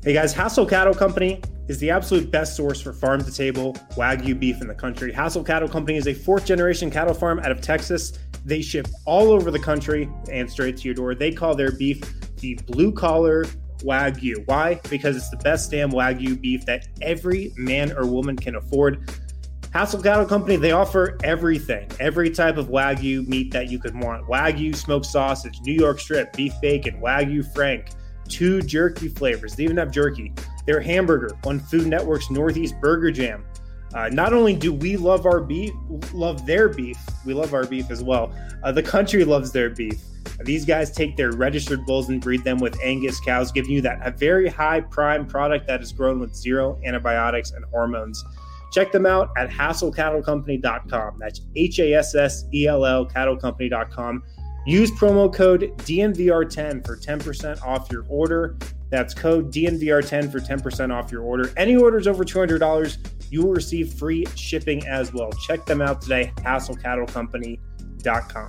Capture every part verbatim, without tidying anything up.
Hey guys, Hassel Cattle Company is the absolute best source for farm-to-table Wagyu beef in the country. Hassel Cattle Company is a fourth-generation cattle farm out of Texas. They ship all over the country and straight to your door. They call their beef the blue-collar Wagyu. Why? Because it's the best damn Wagyu beef that every man or woman can afford. Hassel Cattle Company, they offer everything, every type of Wagyu meat that you could want. Wagyu smoked sausage, New York strip, beef bacon, Wagyu Frank, two jerky flavors. They even have jerky. Their hamburger on Food Network's Northeast Burger Jam. Uh, not only do we love our beef, love their beef, we love our beef as well. Uh, the country loves their beef. These guys take their registered bulls and breed them with Angus cows, giving you that a very high prime product that is grown with zero antibiotics and hormones. Check them out at hassel cattle company dot com. That's H A S S E L L cattle company dot com. Use promo code D N V R ten for ten percent off your order. That's code D N V R ten for ten percent off your order. Any orders over two hundred dollars, you will receive free shipping as well. Check them out today, hassel cattle company dot com.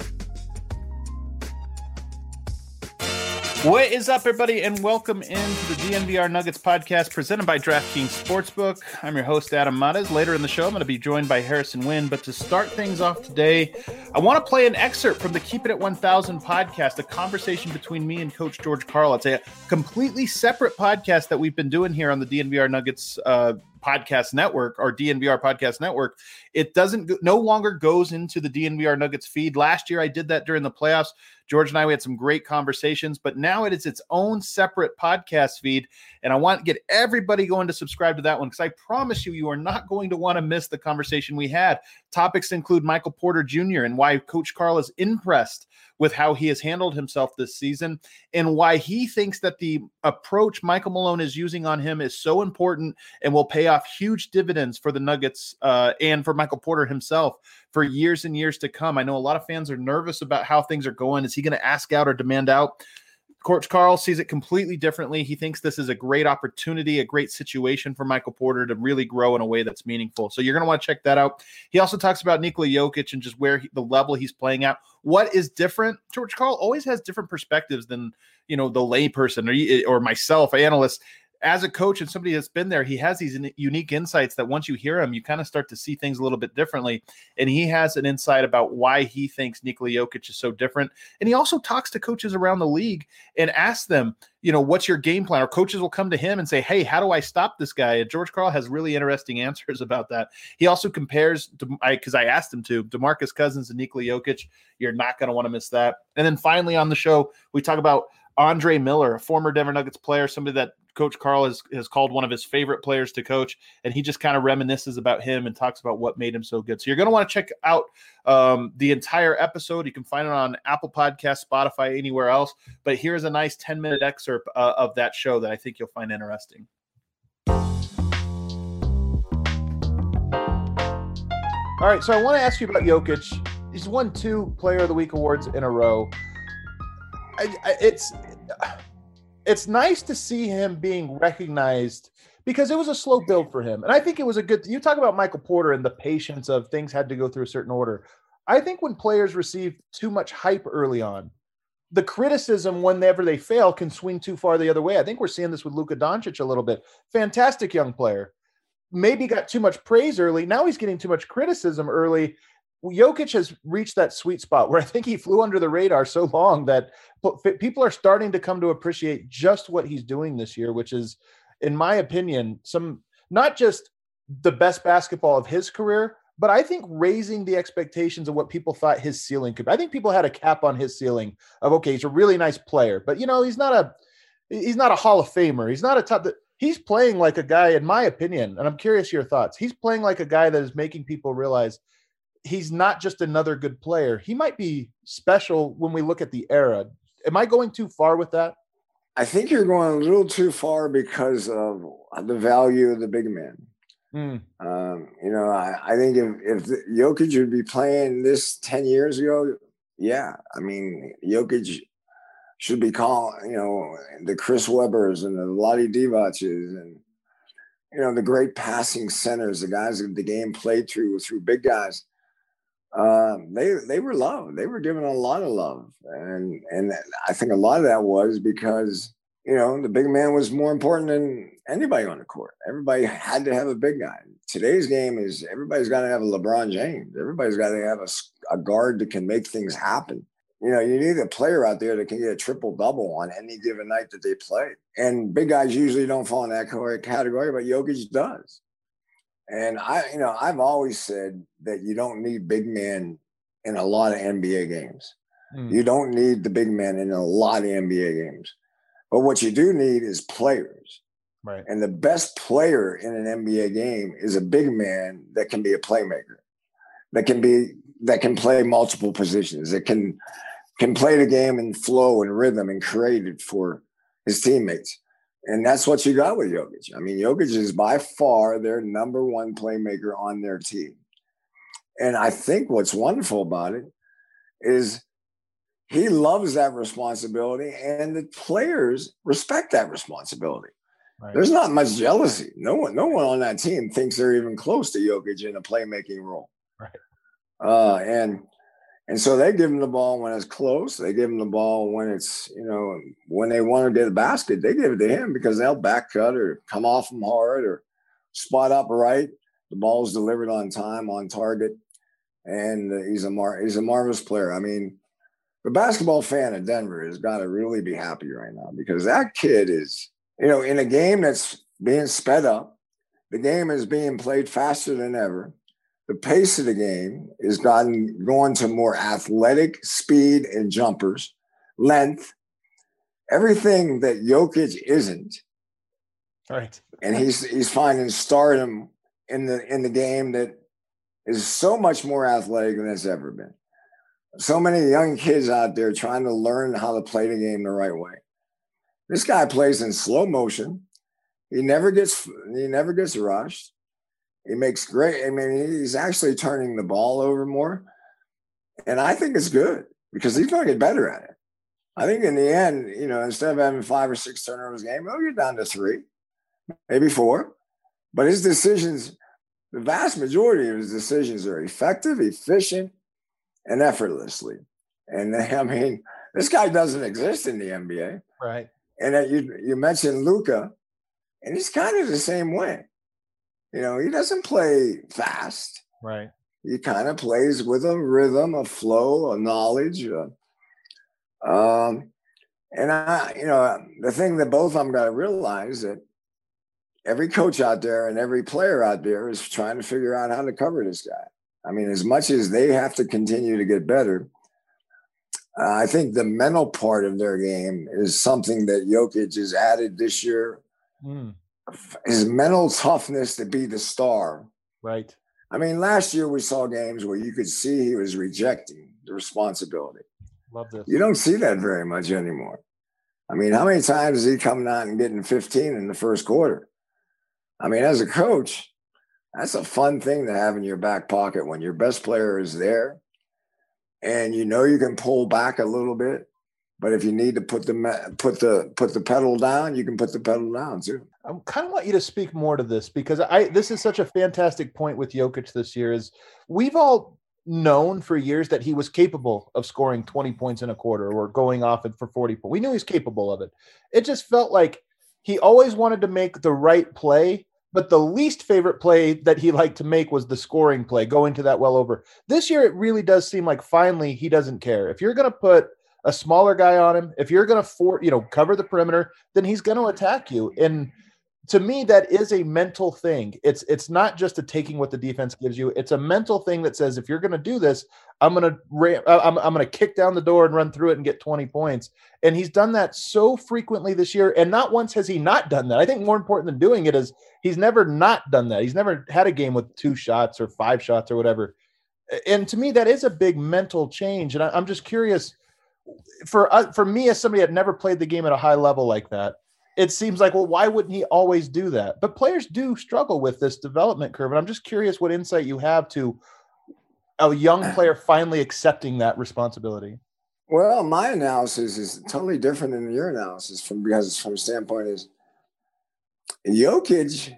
What is up, everybody, and welcome into the D N V R Nuggets podcast presented by DraftKings Sportsbook. I'm your host, Adam Mares. Later in the show, I'm going to be joined by Harrison Wynn. But to start things off today, I want to play an excerpt from the Keep It at one thousand podcast, a conversation between me and Coach George Karl. It's a completely separate podcast that we've been doing here on the D N V R Nuggets uh, podcast network, or D N V R podcast network. It doesn't no longer goes into the D N V R Nuggets feed. Last year, I did that during the playoffs. George and I, we had some great conversations, but now it is its own separate podcast feed, and I want to get everybody going to subscribe to that one because I promise you, you are not going to want to miss the conversation we had. Topics include Michael Porter Junior and why Coach Karl is impressed with how he has handled himself this season and why he thinks that the approach Michael Malone is using on him is so important and will pay off huge dividends for the Nuggets uh, and for Michael Porter himself for years and years to come. I know a lot of fans are nervous about how things are going. Is he going to ask out or demand out? Coach Karl sees it completely differently. He thinks this is a great opportunity, a great situation for Michael Porter to really grow in a way that's meaningful. So you're going to want to check that out. He also talks about Nikola Jokic and just where he, the level he's playing at. What is different? George Karl always has different perspectives than, you know, the layperson or, or myself, analyst. As a coach and somebody that's been there, he has these unique insights that once you hear him, you kind of start to see things a little bit differently. And he has an insight about why he thinks Nikola Jokic is so different. And he also talks to coaches around the league and asks them, you know, what's your game plan? Or coaches will come to him and say, hey, how do I stop this guy? And George Karl has really interesting answers about that. He also compares, because I, I asked him to, DeMarcus Cousins and Nikola Jokic. You're not going to want to miss that. And then finally on the show, we talk about Andre Miller, a former Denver Nuggets player, somebody that Coach Karl has, has called one of his favorite players to coach, and he just kind of reminisces about him and talks about what made him so good. So you're going to want to check out um, the entire episode. You can find it on Apple Podcasts, Spotify, anywhere else. But here's a nice ten-minute excerpt uh, of that show that I think you'll find interesting. All right, so I want to ask you about Jokic. He's won two Player of the Week awards in a row. I, I, it's... It's nice to see him being recognized because it was a slow build for him. And I think it was a good – you talk about Michael Porter and the patience of things had to go through a certain order. I think when players receive too much hype early on, the criticism whenever they fail can swing too far the other way. I think we're seeing this with Luka Doncic a little bit. Fantastic young player. Maybe got too much praise early. Now he's getting too much criticism early. Jokic has reached that sweet spot where I think he flew under the radar so long that people are starting to come to appreciate just what he's doing this year, which is, in my opinion, some not just the best basketball of his career, but I think raising the expectations of what people thought his ceiling could be. I think people had a cap on his ceiling of, okay, he's a really nice player, but you know, he's not a he's not a Hall of Famer. He's not a top that he's playing like a guy, in my opinion, and I'm curious your thoughts. He's playing like a guy that is making people realize he's not just another good player. He might be special when we look at the era. Am I going too far with that? I think you're going a little too far because of the value of the big man. Mm. Um, you know, I, I think if, if the, Jokic would be playing this ten years ago, yeah. I mean, Jokic should be called, you know, the Chris Webbers and the Lottie Divacs and, you know, the great passing centers, the guys that the game played through, through big guys. Um, they they were loved. They were given a lot of love, and and I think a lot of that was because you know, the big man was more important than anybody on the court. Everybody had to have a big guy. Today's game is everybody's got to have a LeBron James. Everybody's got to have a, a guard that can make things happen. You know, you need a player out there that can get a triple double on any given night that they play. And big guys usually don't fall in that category, but Jokic does. And I, you know, I've always said that you don't need big men in a lot of N B A games. Mm. You don't need the big men in a lot of N B A games. But what you do need is players. Right. And the best player in an N B A game is a big man that can be a playmaker, that can be that can play multiple positions, that can can play the game in flow and rhythm and create it for his teammates. And that's what you got with Jokic. I mean, Jokic is by far their number one playmaker on their team. And I think what's wonderful about it is he loves that responsibility, and the players respect that responsibility. Right. There's not much jealousy. No one, no one on that team thinks they're even close to Jokic in a playmaking role. Right. Uh, and and so they give him the ball when it's close. They give him the ball when it's, you know, when they want to get a basket, they give it to him because they'll back cut or come off him hard or spot up right. The ball's delivered on time, on target, and uh, he's a mar- he's a marvelous player. I mean, the basketball fan of Denver has got to really be happy right now because that kid is, you know, in a game that's being sped up, the game is being played faster than ever. The pace of the game is gotten going to more athletic speed and jumpers, length, everything that Jokic isn't. Right. And he's he's finding stardom in the in the game that is so much more athletic than it's ever been. So many young kids out there trying to learn how to play the game the right way. This guy plays in slow motion. He never gets he never gets rushed. He makes great. I mean, he's actually turning the ball over more. And I think it's good because he's going to get better at it. I think in the end, you know, instead of having five or six turnovers a game, he'll get down to three, maybe four. But his decisions, the vast majority of his decisions are effective, efficient, and effortlessly. And I mean, this guy doesn't exist in the N B A. Right. And that you you mentioned Luka, and he's kind of the same way. You know, he doesn't play fast. Right. He kind of plays with a rhythm, a flow, a knowledge. Uh, um, and I, you know, the thing that both of them got to realize that every coach out there and every player out there is trying to figure out how to cover this guy. I mean, as much as they have to continue to get better, uh, I think the mental part of their game is something that Jokic has added this year. Mm. His mental toughness to be the star. Right. I mean, last year we saw games where you could see he was rejecting the responsibility. Love this. You don't see that very much anymore. I mean, how many times is he coming out and getting fifteen in the first quarter? I mean, as a coach, that's a fun thing to have in your back pocket when your best player is there and you know you can pull back a little bit. But if you need to put the put the put the pedal down, you can put the pedal down too. I kind of want you to speak more to this because I this is such a fantastic point with Jokic this year. Is we've all known for years that he was capable of scoring twenty points in a quarter or going off it for forty points. We knew he was capable of it. It just felt like he always wanted to make the right play, but the least favorite play that he liked to make was the scoring play, going to that well over. This year, it really does seem like finally he doesn't care. If you're going to put a smaller guy on him, if you're going to for you know cover the perimeter, then he's going to attack you. And to me, that is a mental thing. It's it's not just a taking what the defense gives you. It's a mental thing that says if you're going to do this, I'm going to I'm I'm going to kick down the door and run through it and get twenty points. And he's done that so frequently this year, and not once has he not done that. I think more important than doing it is he's never not done that. He's never had a game with two shots or five shots or whatever. And to me, that is a big mental change. And I, I'm just curious. For uh, for me, as somebody that never played the game at a high level like that, it seems like, well, why wouldn't he always do that? But players do struggle with this development curve. And I'm just curious what insight you have to a young player finally accepting that responsibility. Well, my analysis is totally different than your analysis from because from the standpoint is Jokic,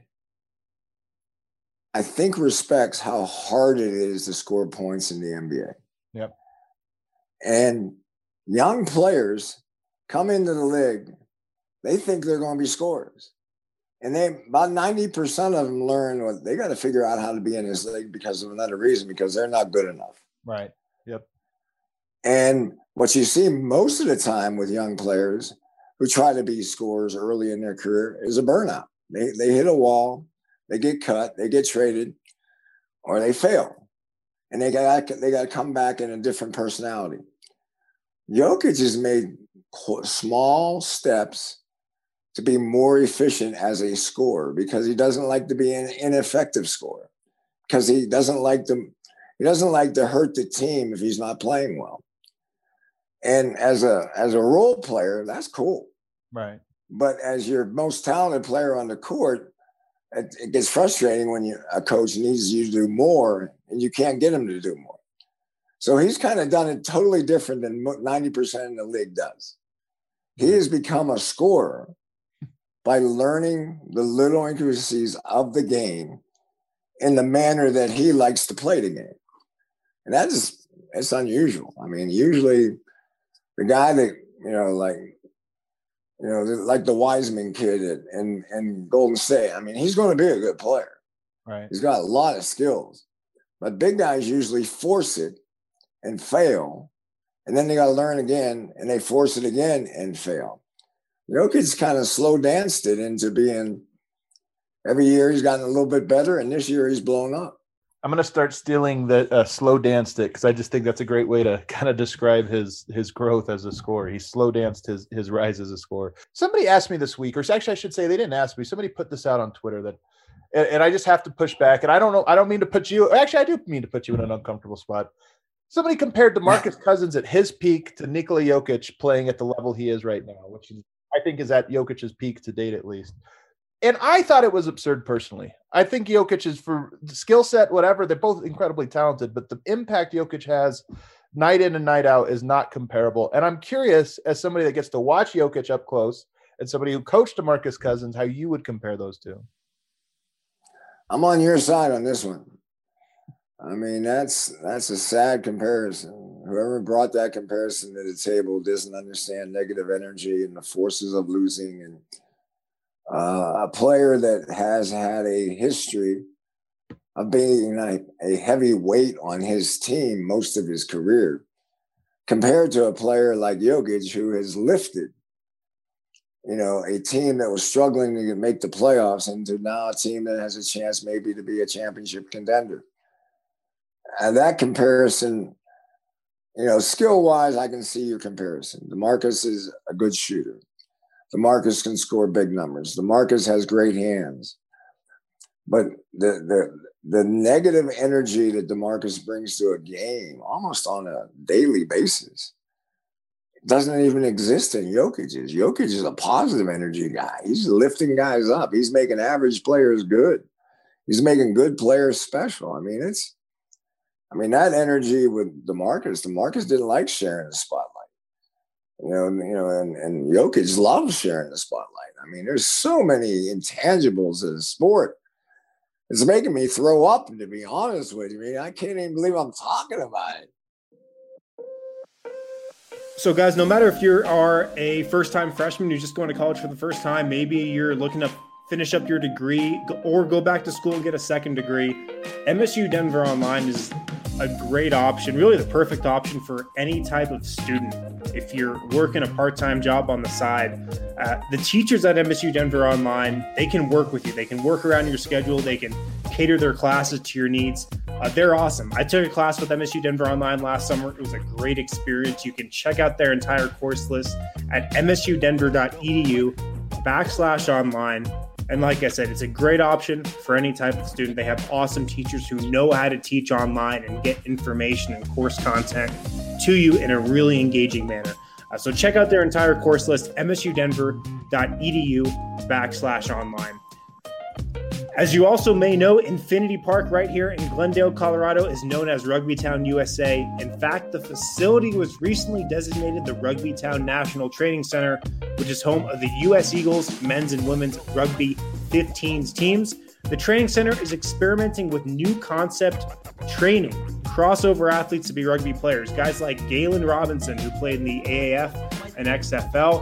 I think, respects how hard it is to score points in the N B A. Yep. And young players come into the league they think they're going to be scorers. And they about ninety percent of them learn what they got to figure out how to be in this league because of another reason, because they're not good enough. Right. Yep. And what you see most of the time with young players who try to be scorers early in their career is a burnout. They they hit a wall, they get cut, they get traded, or they fail. And they got they got to come back in a different personality. Jokic has made small steps to be more efficient as a scorer because he doesn't like to be an ineffective scorer, because he doesn't like to he doesn't like to hurt the team if he's not playing well. And as a as a role player, that's cool. Right. But as your most talented player on the court, it, it gets frustrating when you, a coach needs you to do more and you can't get him to do more. So he's kind of done it totally different than ninety percent of the league does. He has become a scorer by learning the little intricacies of the game in the manner that he likes to play the game. And that is, it's unusual. I mean, usually the guy that, you know, like, you know, like the Wiseman kid at, in, in Golden State, I mean, he's going to be a good player. Right. He's got a lot of skills. But big guys usually force it and fail. And then they got to learn again, and they force it again and fail. Jokic's kind of slow danced it into being, every year he's gotten a little bit better, and this year he's blown up. I'm going to start stealing the uh, slow danced it, because I just think that's a great way to kind of describe his his growth as a scorer. He slow danced his his rise as a scorer. Somebody asked me this week, or actually I should say they didn't ask me. Somebody put this out on Twitter that, and, and I just have to push back. And I don't know, I don't mean to put you, actually I do mean to put you in an uncomfortable spot. Somebody compared DeMarcus Cousins at his peak to Nikola Jokic playing at the level he is right now, which is, I think is at Jokic's peak to date at least. And I thought it was absurd personally. I think Jokic is, for skill set, whatever, they're both incredibly talented, but the impact Jokic has night in and night out is not comparable. And I'm curious, as somebody that gets to watch Jokic up close and somebody who coached DeMarcus Cousins, how you would compare those two. I'm on your side on this one. I mean, that's that's a sad comparison. Whoever brought that comparison to the table doesn't understand negative energy and the forces of losing. And uh, a player that has had a history of being a, a heavy weight on his team most of his career, compared to a player like Jokic, who has lifted, you know, a team that was struggling to make the playoffs into now a team that has a chance maybe to be a championship contender. And that comparison, you know, skill-wise, I can see your comparison. DeMarcus is a good shooter. DeMarcus can score big numbers. DeMarcus has great hands. But the the the negative energy that DeMarcus brings to a game almost on a daily basis doesn't even exist in Jokic's. Jokic is a positive energy guy. He's lifting guys up. He's making average players good. He's making good players special. I mean, it's I mean, that energy with DeMarcus, DeMarcus didn't like sharing the spotlight. You know, you know, and, and Jokic loves sharing the spotlight. I mean, there's so many intangibles in the sport. It's making me throw up, to be honest with you. I mean, I can't even believe I'm talking about it. So, guys, no matter if you are a first-time freshman, you're just going to college for the first time, maybe you're looking to finish up your degree or go back to school and get a second degree, M S U Denver Online is a great option, really the perfect option for any type of student. If you're working a part-time job on the side, uh, the teachers at M S U Denver Online, they can work with you. They can work around your schedule. They can cater their classes to your needs. Uh, they're awesome. I took a class with M S U Denver Online last summer. It was a great experience. You can check out their entire course list at msudenver.edu backslash online. And like I said, it's a great option for any type of student. They have awesome teachers who know how to teach online and get information and course content to you in a really engaging manner. Uh, so check out their entire course list, msudenver.edu backslash online. As you also may know, Infinity Park right here in Glendale, Colorado is known as Rugby Town U S A. In fact, the facility was recently designated the Rugby Town National Training Center, which is home of the U S Eagles men's and women's rugby fifteens teams. The training center is experimenting with new concept training, crossover athletes to be rugby players. Guys like Galen Robinson, who played in the A A F and X F L.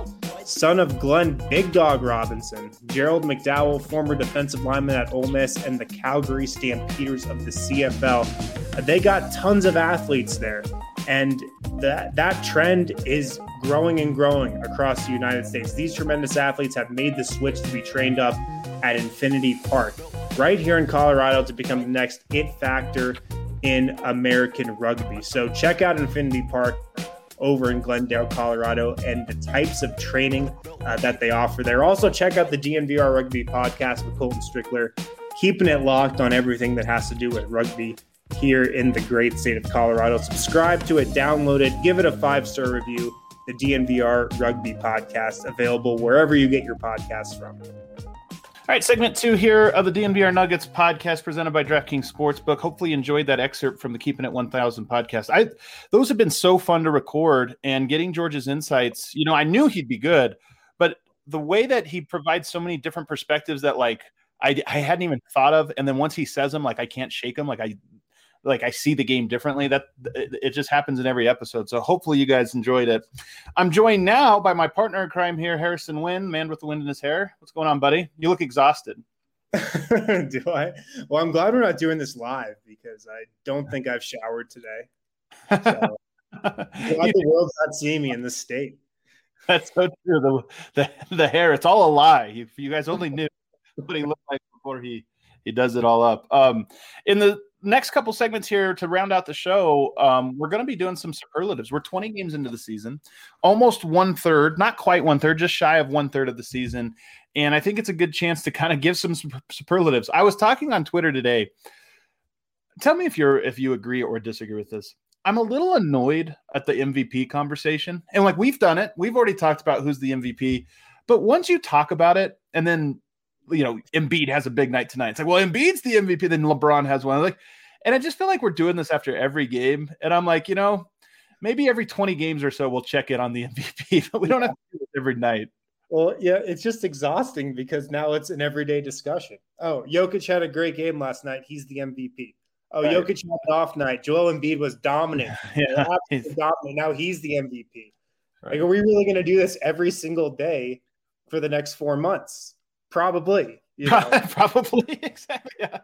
son of Glenn Big Dog Robinson, Gerald McDowell, former defensive lineman at Ole Miss, and the Calgary Stampeders of the C F L. They got tons of athletes there, and that that trend is growing and growing across the United States. These tremendous athletes have made the switch to be trained up at Infinity Park, right here in Colorado, to become the next it factor in American rugby. So check out Infinity Park over in Glendale, Colorado, and the types of training uh, that they offer there. Also, check out the D N V R Rugby podcast with Colton Strickler, keeping it locked on everything that has to do with rugby here in the great state of Colorado. Subscribe to it, download it, give it a five-star review. The D N V R Rugby podcast, available wherever you get your podcasts from. All right, segment two here of the D N V R Nuggets podcast presented by DraftKings Sportsbook. Hopefully you enjoyed that excerpt from the Keeping It one thousand podcast. I Those have been so fun to record, and getting George's insights. You know, I knew he'd be good, but the way that he provides so many different perspectives that, like, I, I hadn't even thought of, and then once he says them, like, I can't shake them. Like, I like I see the game differently. That it, it just happens in every episode. So hopefully you guys enjoyed it. I'm joined now by my partner in crime here, Harrison Wynn, man with the wind in his hair. What's going on, buddy? You look exhausted. Do I? Well, I'm glad we're not doing this live because I don't think I've showered today. So, glad the world's not seeing me in this state. That's so true. The, the the hair, it's all a lie. If you guys only knew what he looked like before he he does it all up. Um, in the next couple segments here to round out the show, um, we're going to be doing some superlatives. We're twenty games into the season, almost one third, not quite one third, just shy of one third of the season. And I think it's a good chance to kind of give some superlatives. I was talking on Twitter today. Tell me if you're, if you agree or disagree with this. I'm a little annoyed at the M V P conversation. And like, we've done it. We've already talked about who's the M V P, but once you talk about it and then, you know, Embiid has a big night tonight. It's like, well, Embiid's the M V P. Then LeBron has one. Like, and I just feel like we're doing this after every game. And I'm like, you know, maybe every twenty games or so we'll check in on the M V P, but we don't have to do it every night. Well, yeah, it's just exhausting because now it's an everyday discussion. Oh, Jokic had a great game last night. He's the M V P. Oh, right. Jokic had an off night. Joel Embiid was dominant. Yeah, absolutely dominant. Now he's the M V P. Right. Like, are we really going to do this every single day for the next four months? Probably, you know. Probably, exactly. Yeah.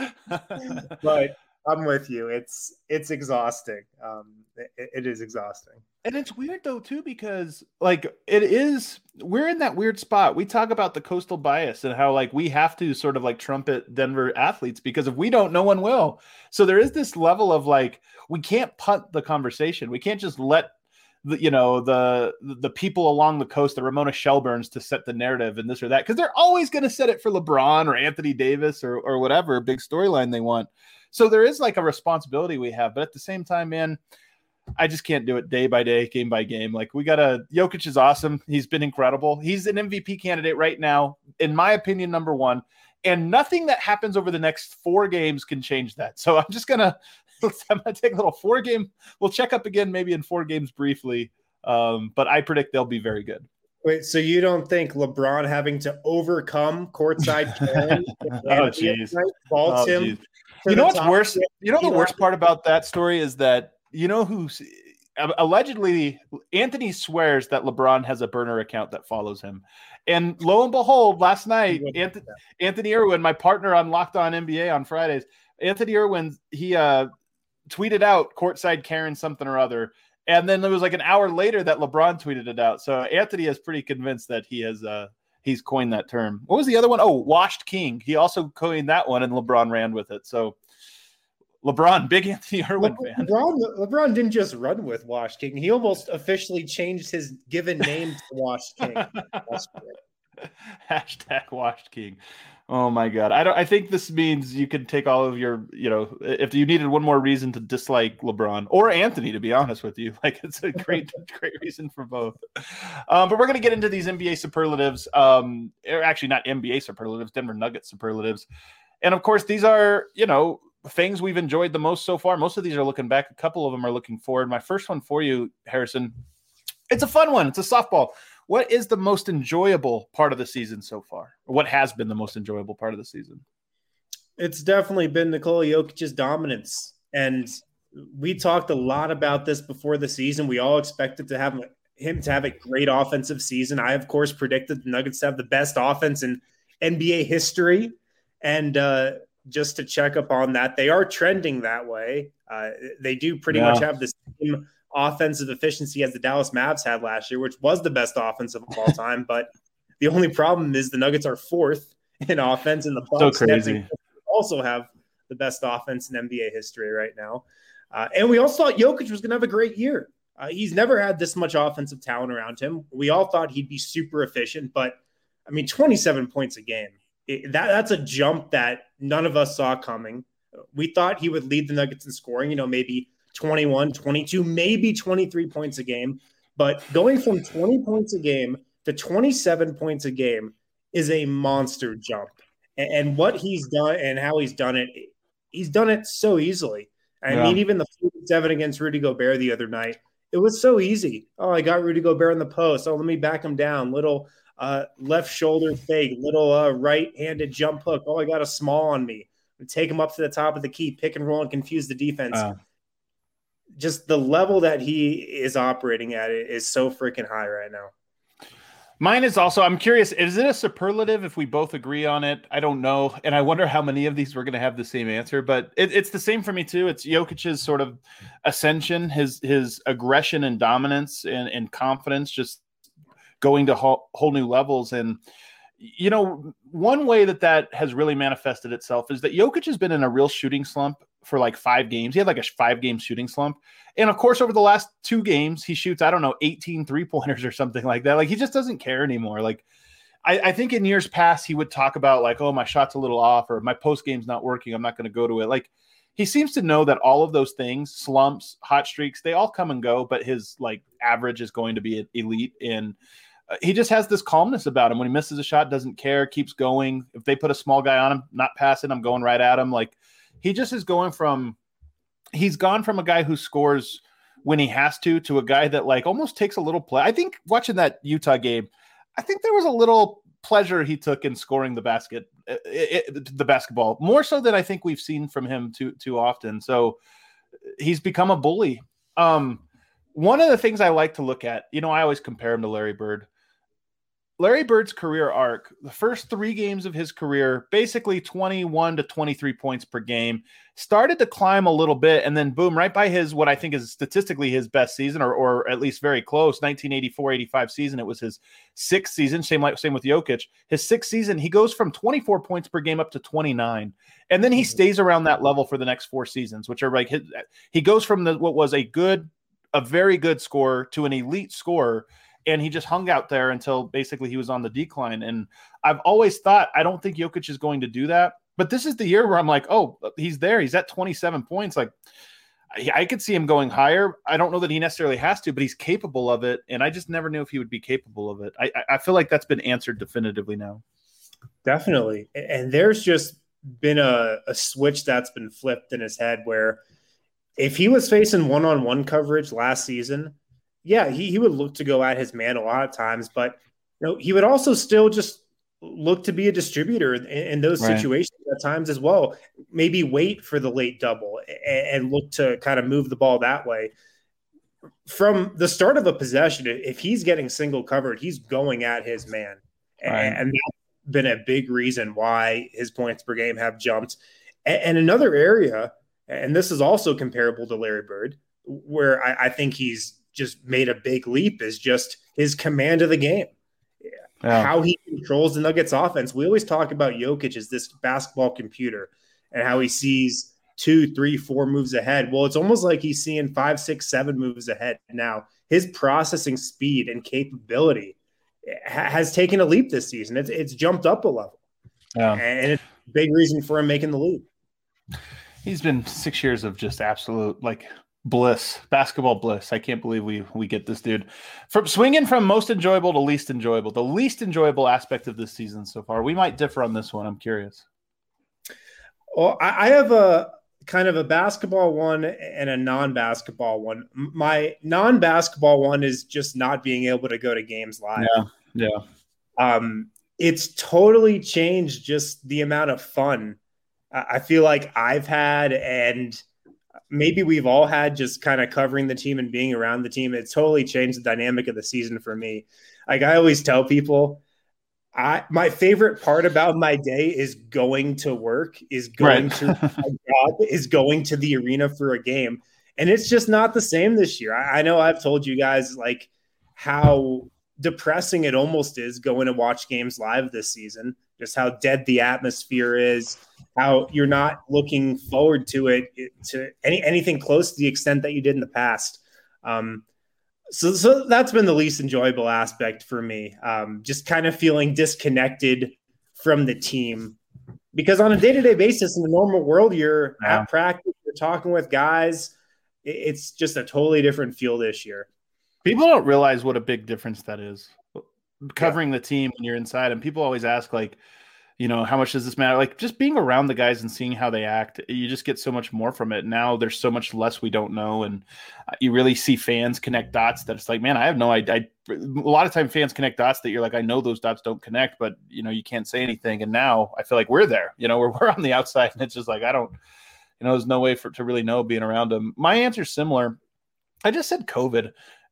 But I'm with you. It's it's exhausting. Um, it, it is exhausting, and it's weird though too because like it is. We're in that weird spot. We talk about the coastal bias and how like we have to sort of like trumpet Denver athletes because if we don't, no one will. So there is this level of like we can't punt the conversation. We can't just let. The, you know, the the people along the coast, the Ramona Shelburnes to set the narrative and this or that, because they're always going to set it for LeBron or Anthony Davis or or whatever big storyline they want. So there is like a responsibility we have. But at the same time, man, I just can't do it day by day, game by game. Like we got to – Jokic is awesome. He's been incredible. He's an M V P candidate right now, in my opinion, number one. And nothing that happens over the next four games can change that. So I'm just going to – I'm going to take a little four game. We'll check up again maybe in four games briefly. Um, but I predict they'll be very good. Wait, so you don't think LeBron having to overcome courtside Karen oh, jeez. faults oh, him? You know what's worse? You know the worst part about that story is that you know who's allegedly Anthony swears that LeBron has a burner account that follows him. And lo and behold, last night, Anthony, Anthony Irwin, my partner on Locked On N B A on Fridays, Anthony Irwin, he uh, tweeted out courtside Karen something or other. And then it was like an hour later that LeBron tweeted it out. So Anthony is pretty convinced that he has uh, he's coined that term. What was the other one? Oh, washed king. He also coined that one, and LeBron ran with it. So LeBron, big Anthony Irwin Le- fan. LeBron, LeBron didn't just run with washed king. He almost officially changed his given name to washed king. Hashtag washed king. Oh my God. I don't, I think this means you can take all of your, you know, if you needed one more reason to dislike LeBron or Anthony, to be honest with you, like it's a great, great reason for both. Um, but we're going to get into these N B A superlatives. Um, or actually not N B A superlatives, Denver Nuggets superlatives. And of course, these are, you know, things we've enjoyed the most so far. Most of these are looking back. A couple of them are looking forward. My first one for you, Harrison, it's a fun one. It's a softball. What is the most enjoyable part of the season so far? Or what has been the most enjoyable part of the season? It's definitely been Nikola Jokic's dominance. And we talked a lot about this before the season. We all expected to have him to have a great offensive season. I, of course, predicted the Nuggets to have the best offense in N B A history. And uh, just to check up on that, they are trending that way. Uh, they do pretty yeah. much have the same offensive efficiency as the Dallas Mavs had last year, which was the best offensive of all time. But the only problem is the Nuggets are fourth in offense, and the Bucks so crazy. also have the best offense in N B A history right now. Uh, and we also thought Jokic was going to have a great year. Uh, he's never had this much offensive talent around him. We all thought he'd be super efficient, but I mean, twenty-seven points a game. It, that that's a jump that none of us saw coming. We thought he would lead the Nuggets in scoring, you know, maybe twenty-one, twenty-two, maybe twenty-three points a game. But going from twenty points a game to twenty-seven points a game is a monster jump. And, and what he's done and how he's done it, he's done it so easily. I yeah. mean, even the forty-seven against Rudy Gobert the other night, it was so easy. Oh, I got Rudy Gobert in the post. Oh, let me back him down. Little uh, left shoulder fake, little uh, right-handed jump hook. Oh, I got a small on me. Take him up to the top of the key, pick and roll, and confuse the defense. Uh, Just the level that he is operating at is so freaking high right now. Mine is also, I'm curious, is it a superlative if we both agree on it? I don't know. And I wonder how many of these we're going to have the same answer, but it, it's the same for me too. It's Jokic's sort of ascension, his his aggression and dominance and, and confidence just going to whole, whole new levels. And, you know, one way that that has really manifested itself is that Jokic has been in a real shooting slump for like five games. He had like a five game shooting slump. And of course, over the last two games, he shoots, I don't know, eighteen three pointers or something like that. Like he just doesn't care anymore. Like I, I think in years past, he would talk about like, oh, my shot's a little off or my post game's not working. I'm not going to go to it. Like he seems to know that all of those things, slumps, hot streaks, they all come and go, but his like average is going to be elite. And uh, he just has this calmness about him. When he misses a shot, doesn't care, keeps going. If they put a small guy on him, not passing, I'm going right at him. Like, he just is going from – he's gone from a guy who scores when he has to to a guy that, like, almost takes a little play. I think watching that Utah game, I think there was a little pleasure he took in scoring the basket, it, it, the basketball, more so than I think we've seen from him too too often. So he's become a bully. Um, one of the things I like to look at, you know, I always compare him to Larry Bird. Larry Bird's career arc, the first three games of his career, basically twenty-one to twenty-three points per game, started to climb a little bit, and then boom, right by his, what I think is statistically his best season, or or at least very close, nineteen eighty-four eighty-five season. It was his sixth season, same like same with Jokic. His sixth season, he goes from twenty-four points per game up to twenty-nine, and then he stays around that level for the next four seasons, which are like his, he goes from the what was a good, a very good scorer to an elite scorer. And he just hung out there until basically he was on the decline. And I've always thought, I don't think Jokic is going to do that. But this is the year where I'm like, oh, he's there. He's at twenty-seven points. Like, I, I could see him going higher. I don't know that he necessarily has to, but he's capable of it. And I just never knew if he would be capable of it. I, I feel like that's been answered definitively now. Definitely. And there's just been a, a switch that's been flipped in his head where if he was facing one-on-one coverage last season, yeah, he, he would look to go at his man a lot of times, but you know, he would also still just look to be a distributor in, in those right. situations at times as well. Maybe wait for the late double and, and look to kind of move the ball that way. From the start of a possession, if he's getting single covered, he's going at his man. Right. And, and that's been a big reason why his points per game have jumped. And, and another area, and this is also comparable to Larry Bird, where I, I think he's just made a big leap, is just his command of the game. Yeah. How he controls the Nuggets offense. We always talk about Jokic as this basketball computer and how he sees two, three, four moves ahead. Well, it's almost like he's seeing five, six, seven moves ahead now. His processing speed and capability ha- has taken a leap this season. It's, it's jumped up a level. Yeah. And it's a big reason for him making the leap. He's been six years of just absolute, like, bliss, basketball bliss. I can't believe we we get this dude from swinging from most enjoyable to least enjoyable. The least enjoyable aspect of this season so far. We might differ on this one. I'm curious. Well, I, I have a kind of a basketball one and a non-basketball one. My non-basketball one is just not being able to go to games live. Yeah, yeah. Um, it's totally changed just the amount of fun I feel like I've had and maybe we've all had just kind of covering the team and being around the team. It's totally changed the dynamic of the season for me. Like I always tell people, I my favorite part about my day is going to work, is going right. to my job, is going to the arena for a game. And it's just not the same this year. I, I know I've told you guys like how depressing it almost is going to watch games live this season, just how dead the atmosphere is, how you're not looking forward to it, to any anything close to the extent that you did in the past. Um, So, so that's been the least enjoyable aspect for me. Um, just kind of feeling disconnected from the team, because on a day-to-day basis in the normal world, you're yeah. at practice, you're talking with guys. It's just a totally different feel this year. People don't realize what a big difference that is, covering yeah. the team when you're inside. And people always ask, like, you know, how much does this matter? Like, just being around the guys and seeing how they act, you just get so much more from it. Now there's so much less we don't know, and you really see fans connect dots that it's like, man, I have no idea. A lot of time fans connect dots that you're like, I know those dots don't connect, but, you know, you can't say anything. And now I feel like we're there, you know, we're, we're on the outside, and it's just like, I don't, you know, there's no way for to really know being around them. My answer's similar. I just said COVID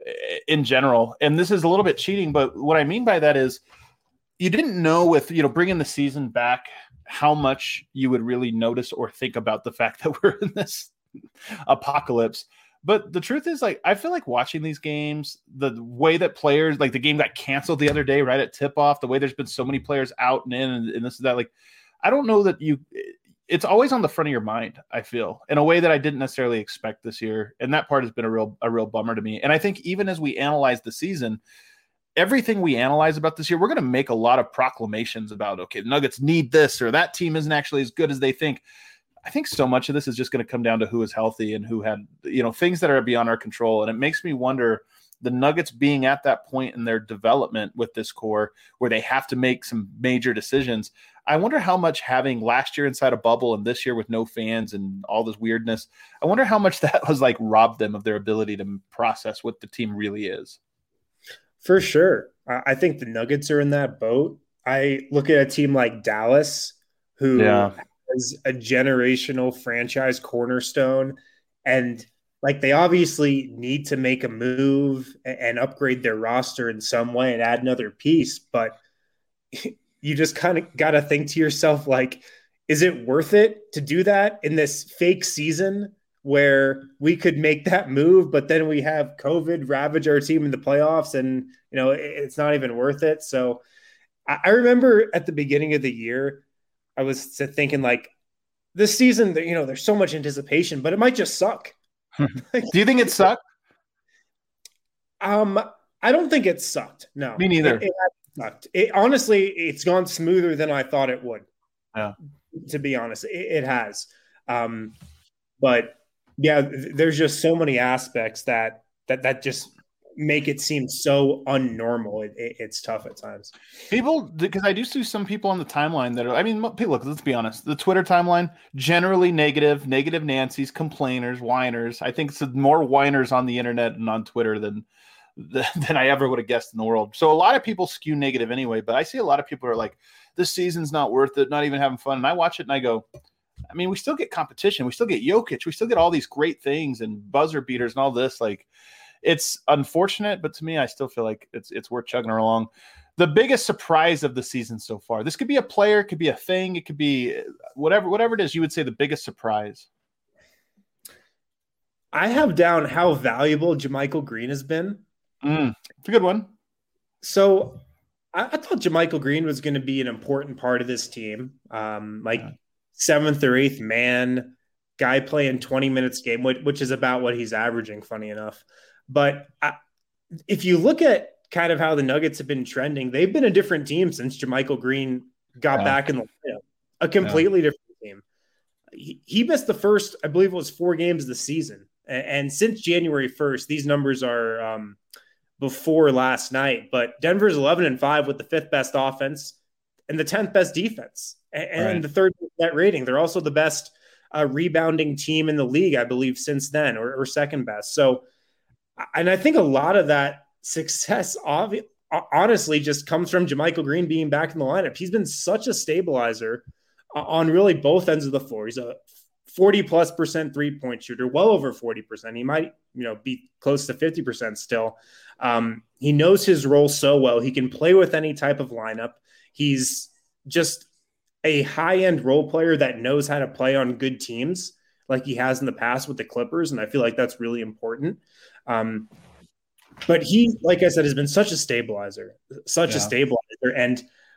in general, and this is a little bit cheating, but what I mean by that is, you didn't know with, you know, bringing the season back, how much you would really notice or think about the fact that we're in this apocalypse. But the truth is, like, I feel like watching these games, the way that players, like the game got canceled the other day, right at tip off, the way there's been so many players out and in and, and this and that, like, I don't know that you, it's always on the front of your mind, I feel, in a way that I didn't necessarily expect this year. And that part has been a real, a real bummer to me. And I think even as we analyze the season, everything we analyze about this year, we're going to make a lot of proclamations about, okay, the Nuggets need this, or that team isn't actually as good as they think. I think so much of this is just going to come down to who is healthy and who had, you know, things that are beyond our control. And it makes me wonder, the Nuggets being at that point in their development with this core where they have to make some major decisions. I wonder how much having last year inside a bubble and this year with no fans and all this weirdness, I wonder how much that was like robbed them of their ability to process what the team really is. For sure. I think the Nuggets are in that boat. I look at a team like Dallas, who yeah. has a generational franchise cornerstone, and like they obviously need to make a move and upgrade their roster in some way and add another piece. But you just kind of got to think to yourself, like, is it worth it to do that in this fake season where we could make that move, but then we have COVID ravage our team in the playoffs, and, you know, it's not even worth it. So I remember at the beginning of the year, I was thinking, like, this season, you know, there's so much anticipation, but it might just suck. Do you think it sucked? Um, I don't think it sucked. No, me neither. It, it sucked. It, honestly, it's gone smoother than I thought it would. Yeah. To be honest, it, it has. Um, but yeah, there's just so many aspects that that that just make it seem so unnormal. It, it, it's tough at times. People, because I do see some people on the timeline that are, I mean, people, look, let's be honest. The Twitter timeline, generally negative, negative Nancy's, complainers, whiners. I think it's more whiners on the internet and on Twitter than than I ever would have guessed in the world. So a lot of people skew negative anyway, but I see a lot of people are like, this season's not worth it, not even having fun. And I watch it and I go, I mean, we still get competition. We still get Jokic. We still get all these great things and buzzer beaters and all this. Like, it's unfortunate, but to me, I still feel like it's it's worth chugging along. The biggest surprise of the season so far. This could be a player, it could be a thing, it could be whatever, whatever it is. You would say the biggest surprise. I have down how valuable JaMychal Green has been. Mm, it's a good one. So I, I thought JaMychal Green was going to be an important part of this team. Um, like. Yeah. Seventh or eighth man, guy playing twenty minutes a game, which, which is about what he's averaging, funny enough. But I, if you look at kind of how the Nuggets have been trending, they've been a different team since JaMychal Green got yeah. back in the lineup. A completely yeah. different team. He, he missed the first, I believe it was four games of the season. And, and since January first, these numbers are um, before last night. But Denver's eleven and five with the fifth best offense and the tenth best defense. And right. the third net rating. They're also the best uh, rebounding team in the league, I believe, since then, or, or second best. So, and I think a lot of that success, obvi- honestly, just comes from JaMychal Green being back in the lineup. He's been such a stabilizer on really both ends of the floor. He's a forty plus percent three-point shooter, well over forty percent. He might, you know, be close to fifty percent still. Um, he knows his role so well. He can play with any type of lineup. He's just a high-end role player that knows how to play on good teams like he has in the past with the Clippers, and I feel like that's really important. Um, but he, like I said, has been such a stabilizer, such yeah. a stabilizer, and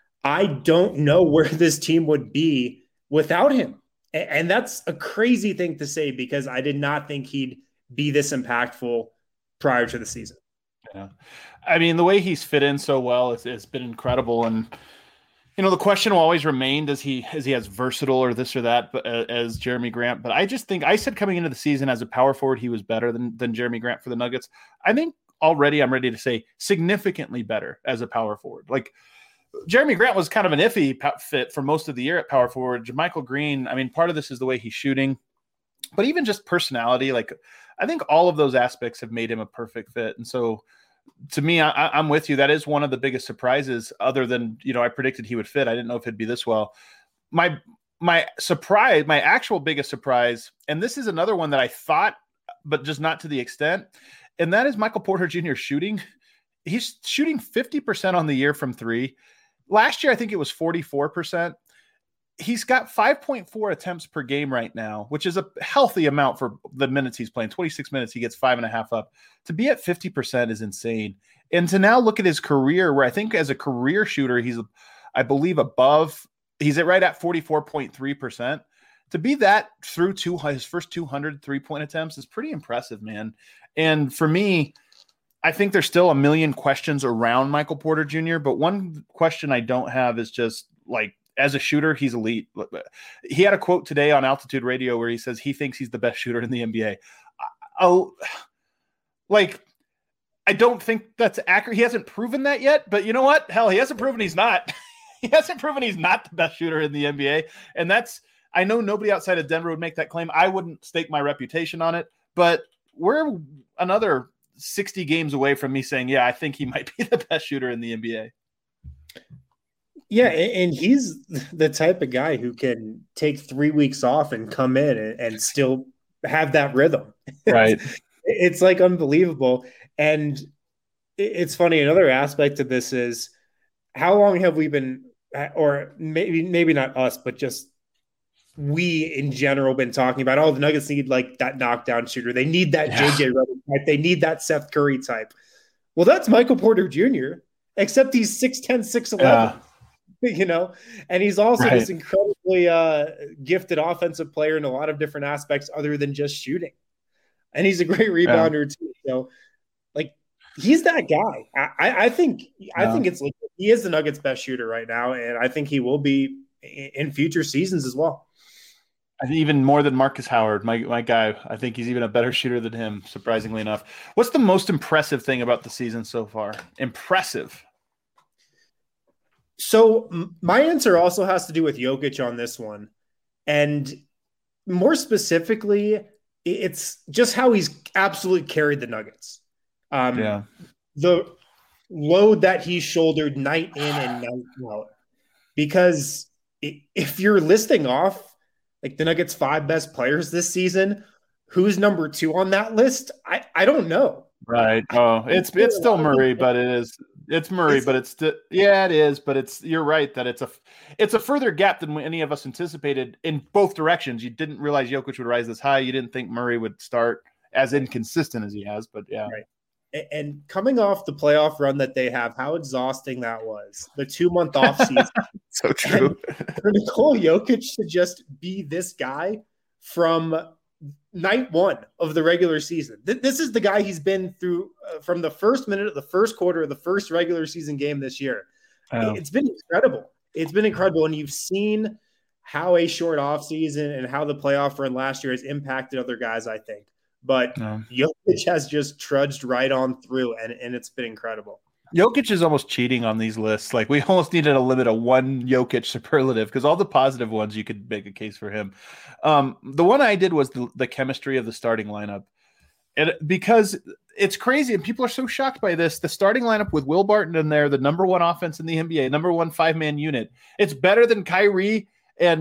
I don't know where this team would be without him. And, and that's a crazy thing to say because I did not think he'd be this impactful prior to the season. Yeah. I mean, the way he's fit in so well, it's, it's been incredible. And, you know, the question will always remain, does he, is he as versatile or this or that but, uh, as Jeremy Grant? But I just think, I said coming into the season as a power forward, he was better than, than Jeremy Grant for the Nuggets. I think already I'm ready to say significantly better as a power forward. Like, Jeremy Grant was kind of an iffy fit for most of the year at power forward. JaMychal Green, I mean, part of this is the way he's shooting, but even just personality. Like, I think all of those aspects have made him a perfect fit. And so to me, I, I'm with you. That is one of the biggest surprises other than, you know, I predicted he would fit. I didn't know if it'd be this well. My, my surprise, my actual biggest surprise, and this is another one that I thought, but just not to the extent, and that is Michael Porter Junior shooting. He's shooting fifty percent on the year from three. Last year, I think it was forty-four percent. He's got five point four attempts per game right now, which is a healthy amount for the minutes he's playing. twenty-six minutes, he gets five and a half up. To be at fifty percent is insane. And to now look at his career, where I think as a career shooter, he's, I believe, above, he's at right at forty-four point three percent. To be that through two, his first two hundred three-point attempts is pretty impressive, man. And for me, I think there's still a million questions around Michael Porter Junior, but one question I don't have is just like, as a shooter, he's elite. He had a quote today on Altitude Radio where he says he thinks he's the best shooter in the N B A. Oh, like, I don't think that's accurate. He hasn't proven that yet, but you know what? Hell, he hasn't proven he's not. He hasn't proven he's not the best shooter in the N B A. And that's, I know nobody outside of Denver would make that claim. I wouldn't stake my reputation on it, but we're another sixty games away from me saying, yeah, I think he might be the best shooter in the N B A. Yeah, and he's the type of guy who can take three weeks off and come in and, and still have that rhythm. Right. It's like unbelievable. And it's funny, another aspect of this is how long have we been, or maybe maybe not us, but just we in general been talking about, oh, the Nuggets need like that knockdown shooter. They need that yeah. J J Redick type. They need that Seth Curry type. Well, that's Michael Porter Junior, except he's six ten, six eleven. Yeah. You know, and he's also right. this incredibly uh, gifted offensive player in a lot of different aspects other than just shooting. And he's a great rebounder yeah. too. So, like, he's that guy. I, I think yeah. I think it's like he is the Nuggets' best shooter right now, and I think he will be in future seasons as well. I think even more than Marcus Howard, my my guy. I think he's even a better shooter than him, surprisingly enough. What's the most impressive thing about the season so far? Impressive. So my answer also has to do with Jokic on this one. And more specifically, it's just how he's absolutely carried the Nuggets. Um, yeah. The load that he shouldered night in and night out. Because if you're listing off like the Nuggets' five best players this season, who's number two on that list? I, I don't know. Right. Oh, it's it's still Murray, but it is it's Murray, it's, but it's st- yeah, it is. But it's you're right that it's a it's a further gap than any of us anticipated in both directions. You didn't realize Jokic would rise this high. You didn't think Murray would start as inconsistent as he has. But yeah, right. And coming off the playoff run that they have, how exhausting that was. The two month off season. So true. For Nikola Jokic to just be this guy from night one of the regular season. This is the guy he's been through uh, from the first minute of the first quarter of the first regular season game this year. Oh. It's been incredible. It's been incredible. And you've seen how a short offseason and how the playoff run last year has impacted other guys, I think. But oh. Jokic has just trudged right on through, and, and it's been incredible. Jokic is almost cheating on these lists. Like, we almost needed to limit a one Jokic superlative because all the positive ones, you could make a case for him. Um, the one I did was the, the chemistry of the starting lineup. And because it's crazy, and people are so shocked by this, the starting lineup with Will Barton in there, the number one offense in the N B A, number one five-man unit, it's better than Kyrie and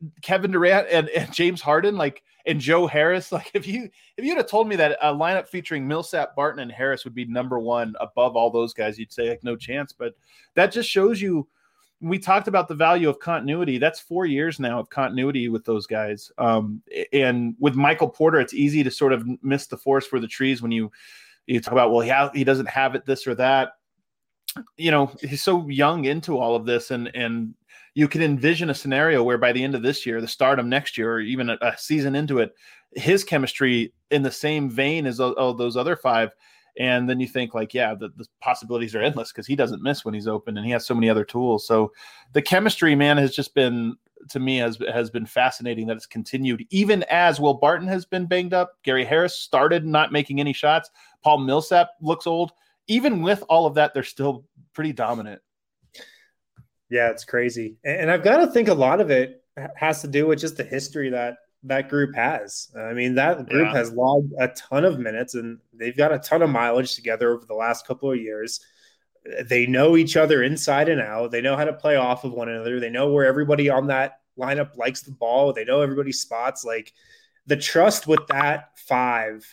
Kevin Durant and, and James Harden, like, and Joe Harris. Like, if you if you'd have told me that a lineup featuring Millsap, Barton, and Harris would be number one above all those guys, you'd say like no chance. But that just shows you. We talked about the value of continuity. That's four years now of continuity with those guys. Um, and with Michael Porter, it's easy to sort of miss the forest for the trees when you you talk about, well, he ha- he doesn't have it, this or that. You know, he's so young into all of this, and and you can envision a scenario where by the end of this year, the start of next year, or even a, a season into it, his chemistry in the same vein as all those other five. And then you think like, yeah, the, the possibilities are endless because he doesn't miss when he's open and he has so many other tools. So the chemistry, man, has just been, to me, has, has been fascinating that it's continued, even as Will Barton has been banged up. Gary Harris started not making any shots. Paul Millsap looks old. Even with all of that, they're still pretty dominant. Yeah, it's crazy. And I've got to think a lot of it has to do with just the history that that group has. I mean, that group yeah. has logged a ton of minutes, and they've got a ton of mileage together over the last couple of years. They know each other inside and out. They know how to play off of one another. They know where everybody on that lineup likes the ball. They know everybody's spots. Like, the trust with that five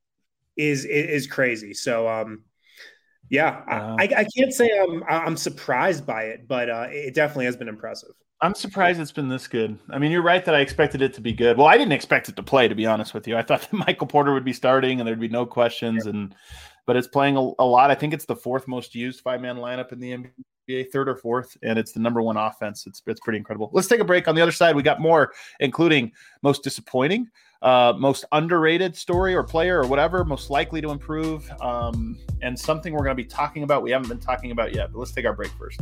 is is, is crazy. So, um, yeah, wow. I, I can't say I'm I'm surprised by it, but uh, it definitely has been impressive. I'm surprised it's been this good. I mean, you're right that I expected it to be good. Well, I didn't expect it to play, to be honest with you. I thought that Michael Porter would be starting and there'd be no questions. And but it's playing a, a lot. I think it's the fourth most used five-man lineup in the N B A, third or fourth, and it's the number one offense. It's it's pretty incredible. Let's take a break. On the other side, we got more, including most disappointing, uh, most underrated story or player or whatever, most likely to improve, um, and something we're going to be talking about we haven't been talking about yet. But let's take our break first.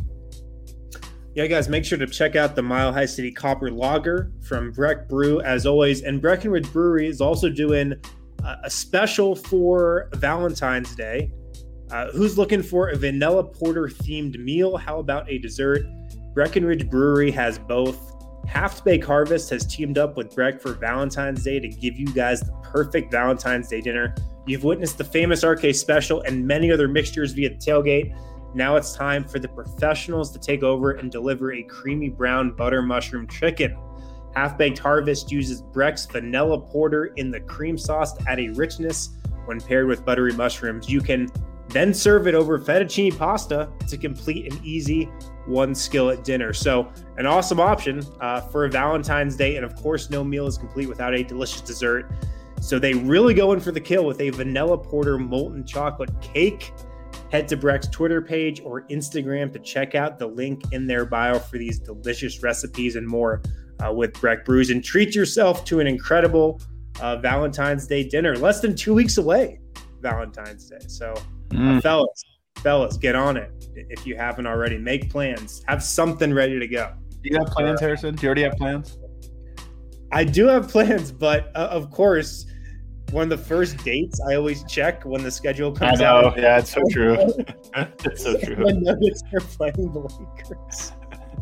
Yeah, guys, make sure to check out the Mile High City Copper Lager from Breck Brew, as always. And Breckenridge Brewery is also doing a special for Valentine's Day. Uh, who's looking for a vanilla porter themed meal? How about a dessert? Breckenridge Brewery has both. Half Baked Harvest has teamed up with Breck for Valentine's Day to give you guys the perfect Valentine's Day dinner. You've witnessed the famous R K Special and many other mixtures via the tailgate. Now it's time for the professionals to take over and deliver a creamy brown butter mushroom chicken. Half Baked Harvest uses Breck's vanilla porter in the cream sauce to add a richness when paired with buttery mushrooms. You can then serve it over fettuccine pasta to complete an easy one skillet dinner. So an awesome option uh, for a Valentine's Day. And of course, no meal is complete without a delicious dessert. So they really go in for the kill with a vanilla porter molten chocolate cake. Head to Breck's Twitter page or Instagram to check out the link in their bio for these delicious recipes and more uh, with Breck Brews. And treat yourself to an incredible uh, Valentine's Day dinner. Less than two weeks away, Valentine's Day. So, mm. uh, fellas, fellas, get on it. If you haven't already, make plans. Have something ready to go. Do you have plans, Harrison? Do you already have plans? I do have plans, but uh, of course, one of the first dates I always check when the schedule comes I know. out. Yeah, it's so true. It's so true. The Nuggets are playing the Lakers.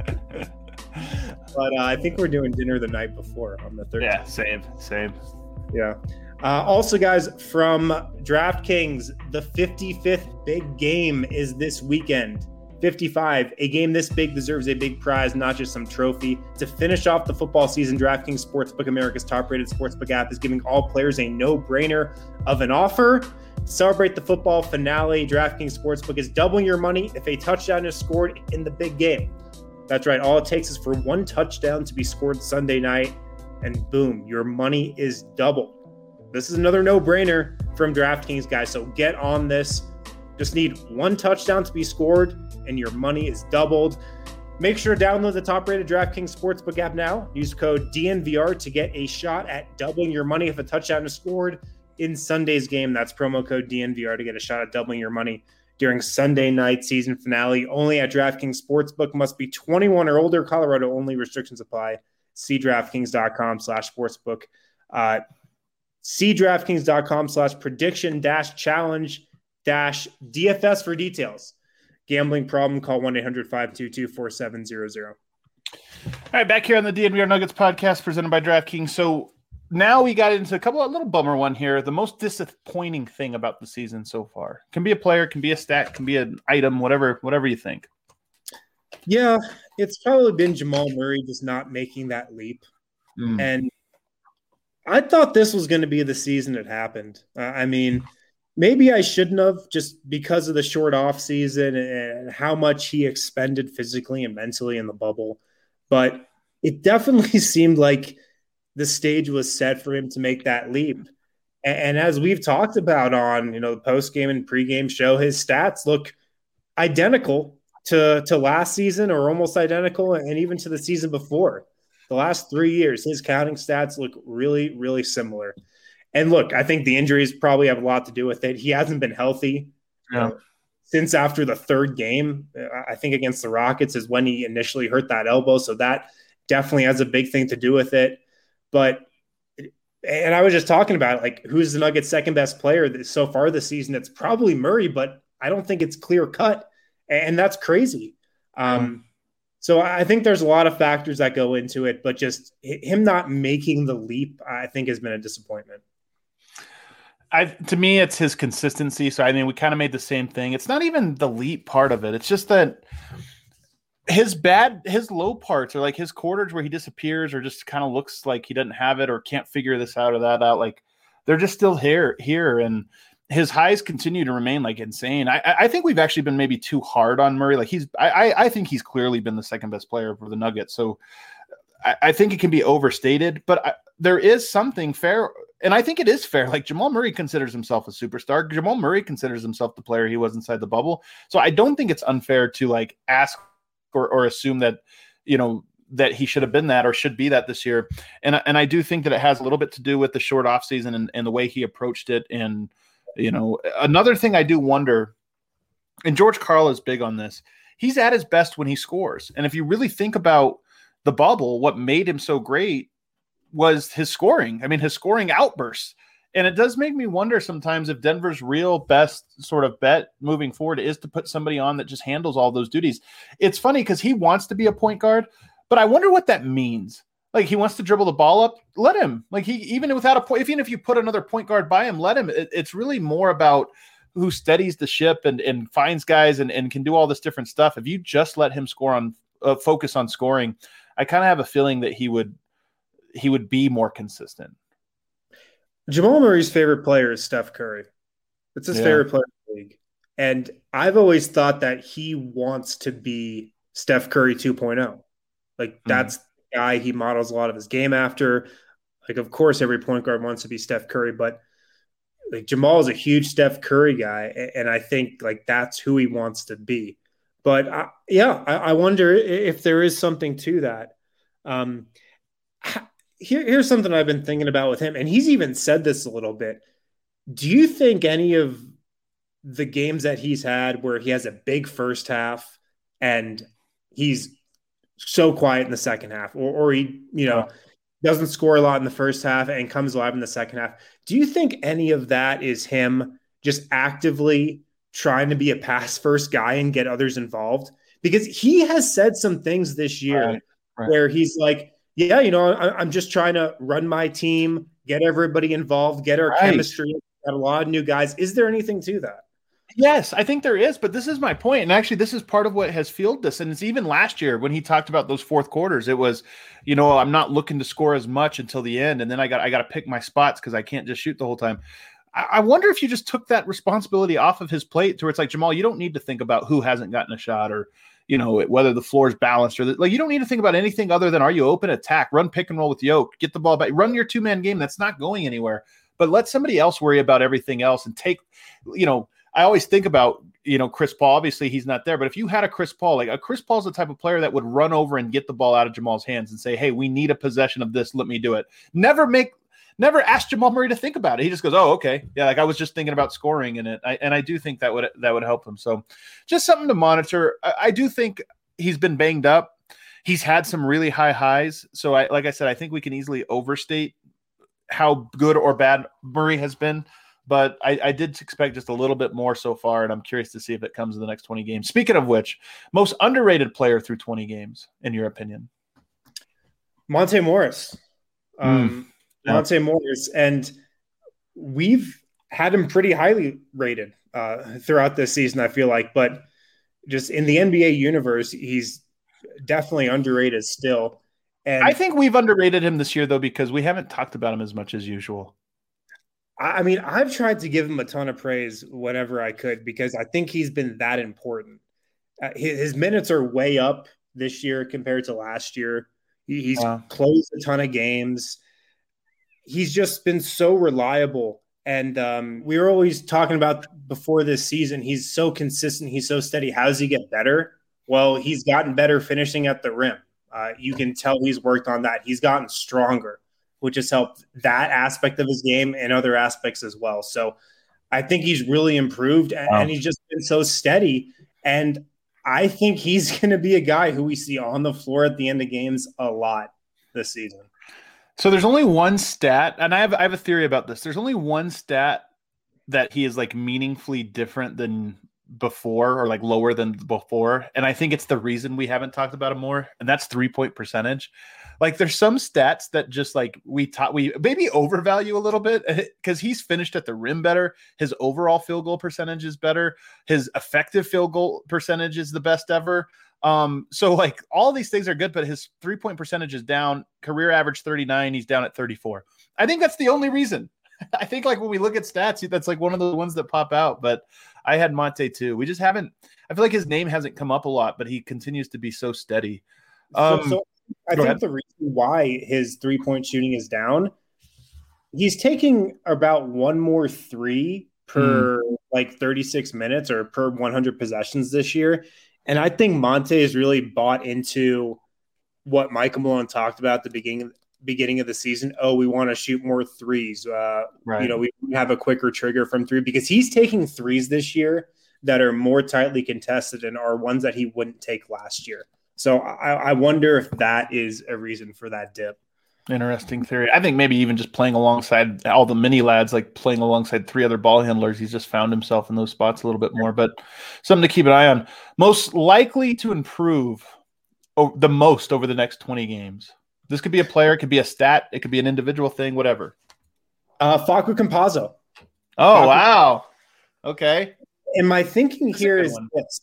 But uh, I think we're doing dinner the night before on the thirteenth. Yeah, same, same. Yeah. Uh, also, guys, from DraftKings, the fifty-fifth big game is this weekend. fifty-five. A game this big deserves a big prize, not just some trophy. To finish off the football season, DraftKings Sportsbook, America's top-rated sportsbook app, is giving all players a no-brainer of an offer. To celebrate the football finale, DraftKings Sportsbook is doubling your money if a touchdown is scored in the big game. That's right. All it takes is for one touchdown to be scored Sunday night, and boom, your money is doubled. This is another no-brainer from DraftKings, guys, so get on this. Just need one touchdown to be scored, and your money is doubled. Make sure to download the top-rated DraftKings Sportsbook app now. Use code D N V R to get a shot at doubling your money if a touchdown is scored in Sunday's game. That's promo code D N V R to get a shot at doubling your money during Sunday night season finale. Only at DraftKings Sportsbook. Must be twenty-one or older. Colorado only. Restrictions apply. See DraftKings.com slash sportsbook. Uh, see DraftKings.com slash prediction dash challenge dash D F S for details. Gambling problem, call one eight hundred five two two four seven zero zero. All right, back here on the D N V R Nuggets podcast presented by DraftKings. So now we got into a couple of little bummer one here. The most disappointing thing about the season so far. Can be a player, can be a stat, can be an item, whatever, whatever you think. Yeah, it's probably been Jamal Murray just not making that leap. Mm. And I thought this was going to be the season it happened. Uh, I mean, maybe I shouldn't have, just because of the short off season and how much he expended physically and mentally in the bubble. But it definitely seemed like the stage was set for him to make that leap. And, and as we've talked about on, you know, the post-game and pre-game show, his stats look identical to, to last season, or almost identical, and even to the season before. The last three years, his counting stats look really, really similar. And look, I think the injuries probably have a lot to do with it. He hasn't been healthy yeah. uh, since after the third game. I think against the Rockets is when he initially hurt that elbow. So that definitely has a big thing to do with it. But, and I was just talking about it, like, who's the Nuggets' second best player so far this season? It's probably Murray, but I don't think it's clear cut. And that's crazy. Um, so I think there's a lot of factors that go into it, but just him not making the leap, I think, has been a disappointment. I, to me, it's his consistency. So, I mean, we kind of made the same thing. It's not even the leap part of it. It's just that his bad, his low parts are like his quarters where he disappears or just kind of looks like he doesn't have it or can't figure this out or that out. Like, they're just still here, here. And his highs continue to remain like insane. I, I think we've actually been maybe too hard on Murray. Like he's, I, I think he's clearly been the second best player for the Nuggets. So I, I think it can be overstated, but I, there is something fair. And I think it is fair. Like Jamal Murray considers himself a superstar. Jamal Murray considers himself the player he was inside the bubble. So I don't think it's unfair to like ask or, or assume that, you know, that he should have been that or should be that this year. And, and I do think that it has a little bit to do with the short off season and, and the way he approached it. And, you know, another thing I do wonder, and George Karl is big on this, he's at his best when he scores. And if you really think about the bubble, what made him so great was his scoring. I mean, his scoring outbursts. And it does make me wonder sometimes if Denver's real best sort of bet moving forward is to put somebody on that just handles all those duties. It's funny because he wants to be a point guard, but I wonder what that means. Like he wants to dribble the ball up, let him. Like he, even without a point, even if you put another point guard by him, let him. It, it's really more about who steadies the ship and, and finds guys and, and can do all this different stuff. If you just let him score on, uh, focus on scoring, I kind of have a feeling that he would, he would be more consistent. Jamal Murray's favorite player is Steph Curry. It's his yeah. favorite player in the league. And I've always thought that he wants to be Steph Curry two point oh. Like mm-hmm. that's the guy he models a lot of his game after. Like, of course, every point guard wants to be Steph Curry, but like Jamal is a huge Steph Curry guy. And I think like that's who he wants to be. But I, yeah, I, I wonder if there is something to that. Um, Here, here's something I've been thinking about with him, and he's even said this a little bit. Do you think any of the games that he's had where he has a big first half and he's so quiet in the second half, or, or he, you know, doesn't score a lot in the first half and comes alive in the second half? Do you think any of that is him just actively trying to be a pass first guy and get others involved? Because he has said some things this year right, right. where he's like, yeah, you know, I'm just trying to run my team, get everybody involved, get our right. chemistry, got a lot of new guys. Is there anything to that? Yes, I think there is, but this is my point. And actually, this is part of what has fueled this. And it's even last year when he talked about those fourth quarters, it was, you know, I'm not looking to score as much until the end. And then I got I got to pick my spots because I can't just shoot the whole time. I, I wonder if you just took that responsibility off of his plate to where it's like, Jamal, you don't need to think about who hasn't gotten a shot or, you know, whether the floor is balanced or the, like, you don't need to think about anything other than, are you open, attack, run pick and roll with Yoke, get the ball back, run your two man game. That's not going anywhere, but let somebody else worry about everything else and take, you know, I always think about, you know, Chris Paul, obviously he's not there, but if you had a Chris Paul, like a Chris Paul's the type of player that would run over and get the ball out of Jamal's hands and say, hey, we need a possession of this. Let me do it. Never make, never ask Jamal Murray to think about it. He just goes, oh, okay. Yeah. Like I was just thinking about scoring in it. I, and I do think that would, that would help him. So just something to monitor. I, I do think he's been banged up. He's had some really high highs. So I, like I said, I think we can easily overstate how good or bad Murray has been, but I, I did expect just a little bit more so far. And I'm curious to see if it comes in the next twenty games. Speaking of which, most underrated player through twenty games, in your opinion? Monte Morris. Um, mm. Yeah. Monte Morris. And we've had him pretty highly rated uh, throughout this season, I feel like, but just in the N B A universe, he's definitely underrated still. And I think we've underrated him this year, though, because we haven't talked about him as much as usual. I mean, I've tried to give him a ton of praise whenever I could because I think he's been that important. Uh, his, his minutes are way up this year compared to last year. He, he's uh, closed a ton of games. He's just been so reliable. And um, we were always talking about before this season, he's so consistent. He's so steady. How does he get better? Well, he's gotten better finishing at the rim. Uh, you can tell he's worked on that. He's gotten stronger, which has helped that aspect of his game and other aspects as well. So I think he's really improved, and, wow. and he's just been so steady. And I think he's going to be a guy who we see on the floor at the end of games a lot this season. So there's only one stat, and I have I have a theory about this. There's only one stat that he is like meaningfully different than before, or like lower than before, and I think it's the reason we haven't talked about him more, and that's three-point percentage. Like there's some stats that just like we taught we maybe overvalue a little bit because he's finished at the rim better. His overall field goal percentage is better. His effective field goal percentage is the best ever. Um, so like all these things are good, but his three-point percentage is down. Career average thirty-nine. He's down at thirty-four. I think that's the only reason. I think like when we look at stats, that's like one of the ones that pop out, but I had Monte too. We just haven't, I feel like his name hasn't come up a lot, but he continues to be so steady. Um, so, so I think ahead. the reason why his three-point shooting is down, he's taking about one more three per mm. like thirty-six minutes or per one hundred possessions this year. And I think Monte has really bought into what Michael Malone talked about at the beginning beginning of the season. Oh, we want to shoot more threes. Uh, right. You know, we have a quicker trigger from three because he's taking threes this year that are more tightly contested and are ones that he wouldn't take last year. So I, I wonder if that is a reason for that dip. Interesting theory. I think maybe even just playing alongside all the mini lads, like playing alongside three other ball handlers, he's just found himself in those spots a little bit more, but something to keep an eye on. Most likely to improve oh, the most over the next twenty games. This could be a player, it could be a stat, it could be an individual thing, whatever. Uh, Facu Campazzo. Oh, Facu. Wow. Okay. And my thinking That's here is one. this.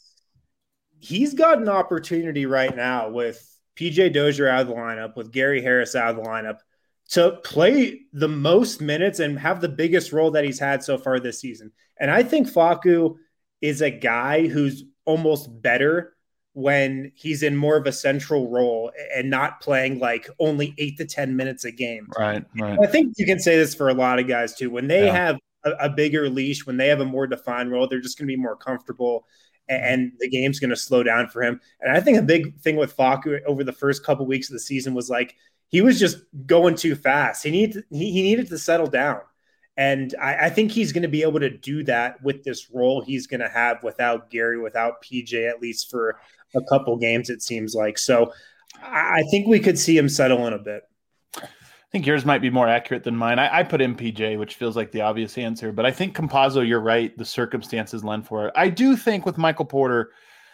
He's got an opportunity right now with P J Dozier out of the lineup, with Gary Harris out of the lineup, to play the most minutes and have the biggest role that he's had so far this season. And I think Facu is a guy who's almost better when he's in more of a central role and not playing like only eight to ten minutes a game. Right, right. I think you can say this for a lot of guys too. When they yeah. have a, a bigger leash, when they have a more defined role, they're just going to be more comfortable and, and the game's going to slow down for him. And I think a big thing with Facu over the first couple of weeks of the season was like, he was just going too fast. He needed, he, he needed to settle down. And I, I think he's going to be able to do that with this role he's going to have without Gary, without P J, at least for a couple games, it seems like. So I think we could see him settle in a bit. I think yours might be more accurate than mine. I, I put M P J, which feels like the obvious answer, but I think Campazzo, you're right. The circumstances lend for it. I do think with Michael Porter,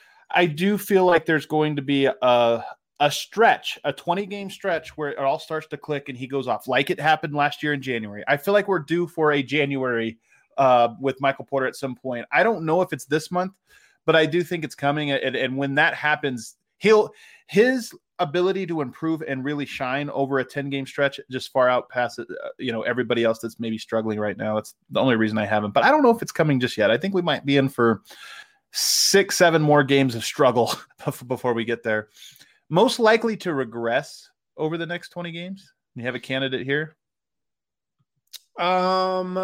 I do feel like there's going to be a, a stretch, a twenty game stretch where it all starts to click and he goes off like it happened last year in January. I feel like we're due for a January uh, with Michael Porter at some point. I don't know if it's this month, but I do think it's coming. And, and when that happens, he'll, his ability to improve and really shine over a ten game stretch just far out past uh, you know, everybody else that's maybe struggling right now. That's the only reason I haven't, but I don't know if it's coming just yet. I think we might be in for six, seven more games of struggle before we get there. Most likely to regress over the next twenty games. You have a candidate here? Um,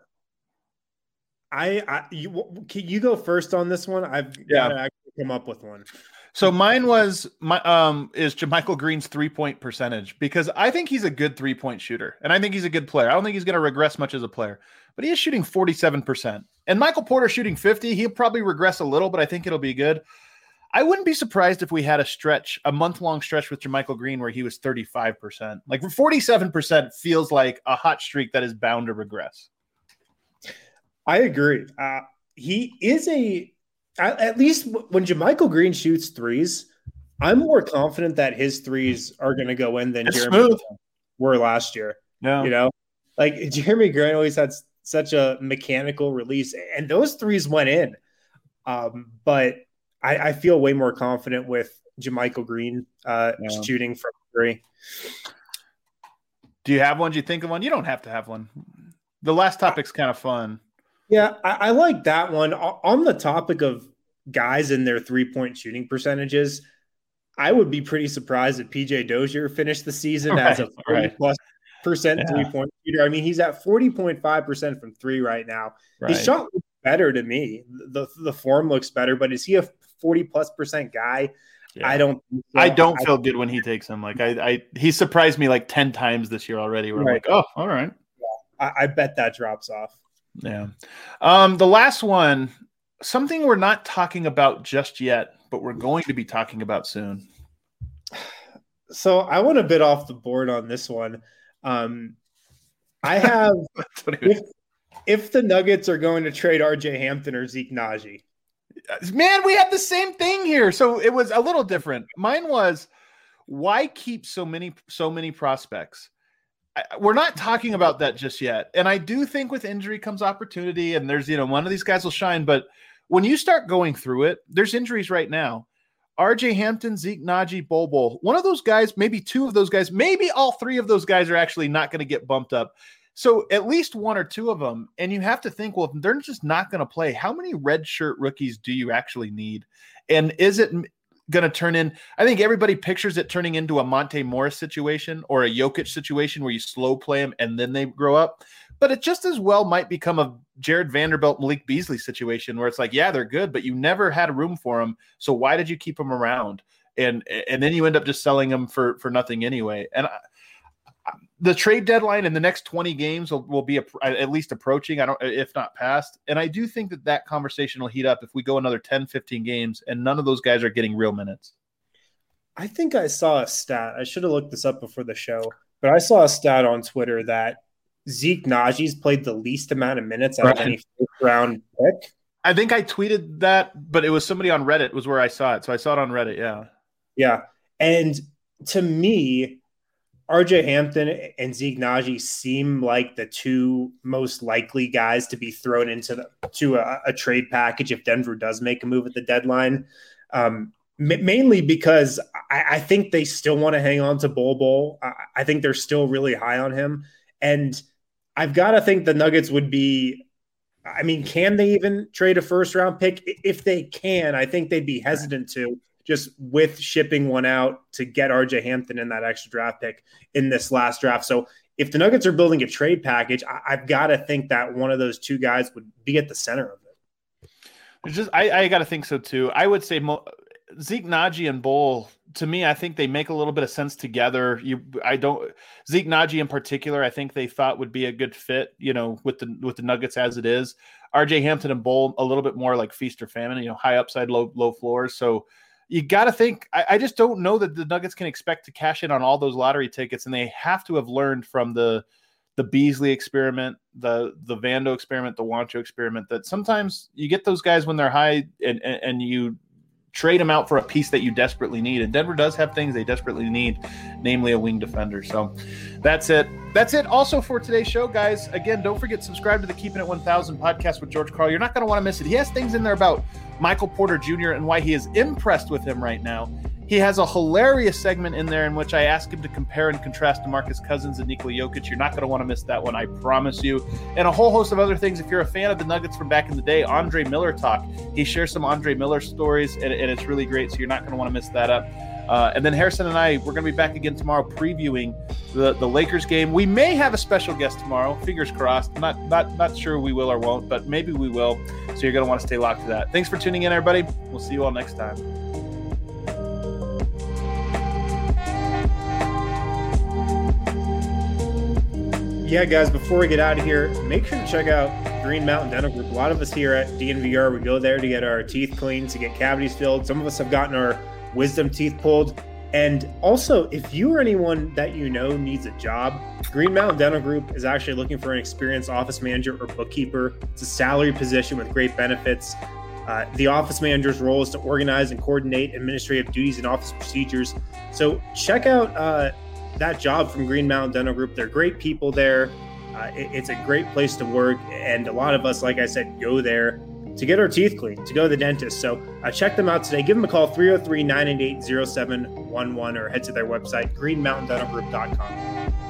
I, I you, can you go first on this one? I've yeah. got to actually come up with one. So mine was my um is JaMychal Green's three point percentage, because I think he's a good three point shooter and I think he's a good player. I don't think he's going to regress much as a player, but he is shooting forty-seven percent. And Michael Porter shooting fifty. He'll probably regress a little, but I think it'll be good. I wouldn't be surprised if we had a stretch, a month-long stretch with JaMychal Green where he was thirty-five percent. Like forty-seven percent feels like a hot streak that is bound to regress. I agree. Uh, he is a, at least when JaMychal Green shoots threes, I'm more confident that his threes are going to go in than it's Jeremy smooth. were last year. Yeah. You know, like Jeremy Grant always had such a mechanical release, and those threes went in. Um, but I, I feel way more confident with JaMychal Green uh, yeah. shooting from agree. Do you have one? Do you think of one? You don't have to have one. The last topic's kind of fun. Yeah, I, I like that one. On the topic of guys and their three-point shooting percentages, I would be pretty surprised if P J Dozier finished the season right, as a forty-plus right. percent yeah. three-point shooter. I mean, he's at forty point five percent from three right now. Right. His shot looks better to me. The, the form looks better, but is he a forty-plus percent guy? Yeah. I don't so. I don't I, feel good when he takes him. Like, I, I he surprised me like ten times this year already. Where right. I'm like, oh, all right. Yeah. I, I bet that drops off. Yeah. Um, the last one, something we're not talking about just yet, but we're going to be talking about soon. So I want to bit off the board on this one. Um, I have if, if the Nuggets are going to trade R J Hampton or Zeke Naji. Man, we had the same thing here. So it was a little different. Mine was, why keep so many so many prospects? We're not talking about that just yet. And I do think with injury comes opportunity, and there's, you know, one of these guys will shine. But when you start going through it, there's injuries right now. R J Hampton, Zeke Naji, Bol Bol. One of those guys, maybe two of those guys, maybe all three of those guys are actually not going to get bumped up. So at least one or two of them. And you have to think, well, if they're just not going to play, how many red shirt rookies do you actually need? And is it going to turn in? I think everybody pictures it turning into a Monte Morris situation or a Jokic situation where you slow play them and then they grow up. But it just as well might become a Jared Vanderbilt, Malik Beasley situation where it's like, yeah, they're good, but you never had a room for them. So why did you keep them around? And and then you end up just selling them for, for nothing anyway. And I, the trade deadline in the next twenty games will, will be a, at least approaching, I don't, if not past. And I do think that that conversation will heat up if we go another ten, fifteen games and none of those guys are getting real minutes. I think I saw a stat. I should have looked this up before the show, but I saw a stat on Twitter that Zeke Naji's played the least amount of minutes out right. of any first round pick. I think I tweeted that, but it was somebody on Reddit was where I saw it. So I saw it on Reddit. Yeah. Yeah. And to me, R J Hampton and Zeke Naji seem like the two most likely guys to be thrown into the, to a, a trade package if Denver does make a move at the deadline. Um, m- mainly because I, I think they still want to hang on to Bol Bol. I, I think they're still really high on him. And I've got to think the Nuggets would be, I mean, can they even trade a first round pick? If they can, I think they'd be hesitant to, just with shipping one out to get R J Hampton in that extra draft pick in this last draft. So if the Nuggets are building a trade package, I, I've got to think that one of those two guys would be at the center of it. It's just, I, I got to think so too. I would say Mo, Zeke Naji and Bol, to me, I think they make a little bit of sense together. You, I don't Zeke Naji in particular, I think they thought would be a good fit, you know, with the, with the Nuggets as it is. R J Hampton and Bol, a little bit more like feast or famine, you know, high upside, low, low floors. So you got to think, I, I just don't know that the Nuggets can expect to cash in on all those lottery tickets. And they have to have learned from the, the Beasley experiment, the, the Vando experiment, the Wancho experiment, that sometimes you get those guys when they're high and, and, and you trade them out for a piece that you desperately need. And Denver does have things they desperately need, namely a wing defender. So that's it. That's it also for today's show, guys. Again, don't forget, subscribe to the Keeping It one thousand podcast with George Karl. You're not going to want to miss it. He has things in there about Michael Porter Junior and why he is impressed with him right now. He has a hilarious segment in there in which I ask him to compare and contrast DeMarcus Cousins and Nikola Jokic. You're not going to want to miss that one, I promise you. And a whole host of other things. If you're a fan of the Nuggets from back in the day, Andre Miller talk. He shares some Andre Miller stories, and, and it's really great, so you're not going to want to miss that up. Uh, and then Harrison and I, we're going to be back again tomorrow previewing the, the Lakers game. We may have a special guest tomorrow. Fingers crossed. Not, not, not sure we will or won't, but maybe we will. So you're going to want to stay locked to that. Thanks for tuning in, everybody. We'll see you all next time. Yeah, guys, before we get out of here, make sure to check out Green Mountain Dental Group. A lot of us here at D N V R, we go there to get our teeth cleaned, to get cavities filled. Some of us have gotten our wisdom teeth pulled. And also, if you or anyone that you know needs a job, Green Mountain Dental Group is actually looking for an experienced office manager or bookkeeper. It's a salary position with great benefits. Uh, the office manager's role is to organize and coordinate administrative duties and office procedures. So check out uh, that job from Green Mountain Dental Group. They're great people there. Uh, it, it's a great place to work. And a lot of us, like I said, go there to get our teeth cleaned, to go to the dentist. So uh, check them out today. Give them a call, three oh three, nine eight eight, oh seven one one, or head to their website, green mountain dental group dot com.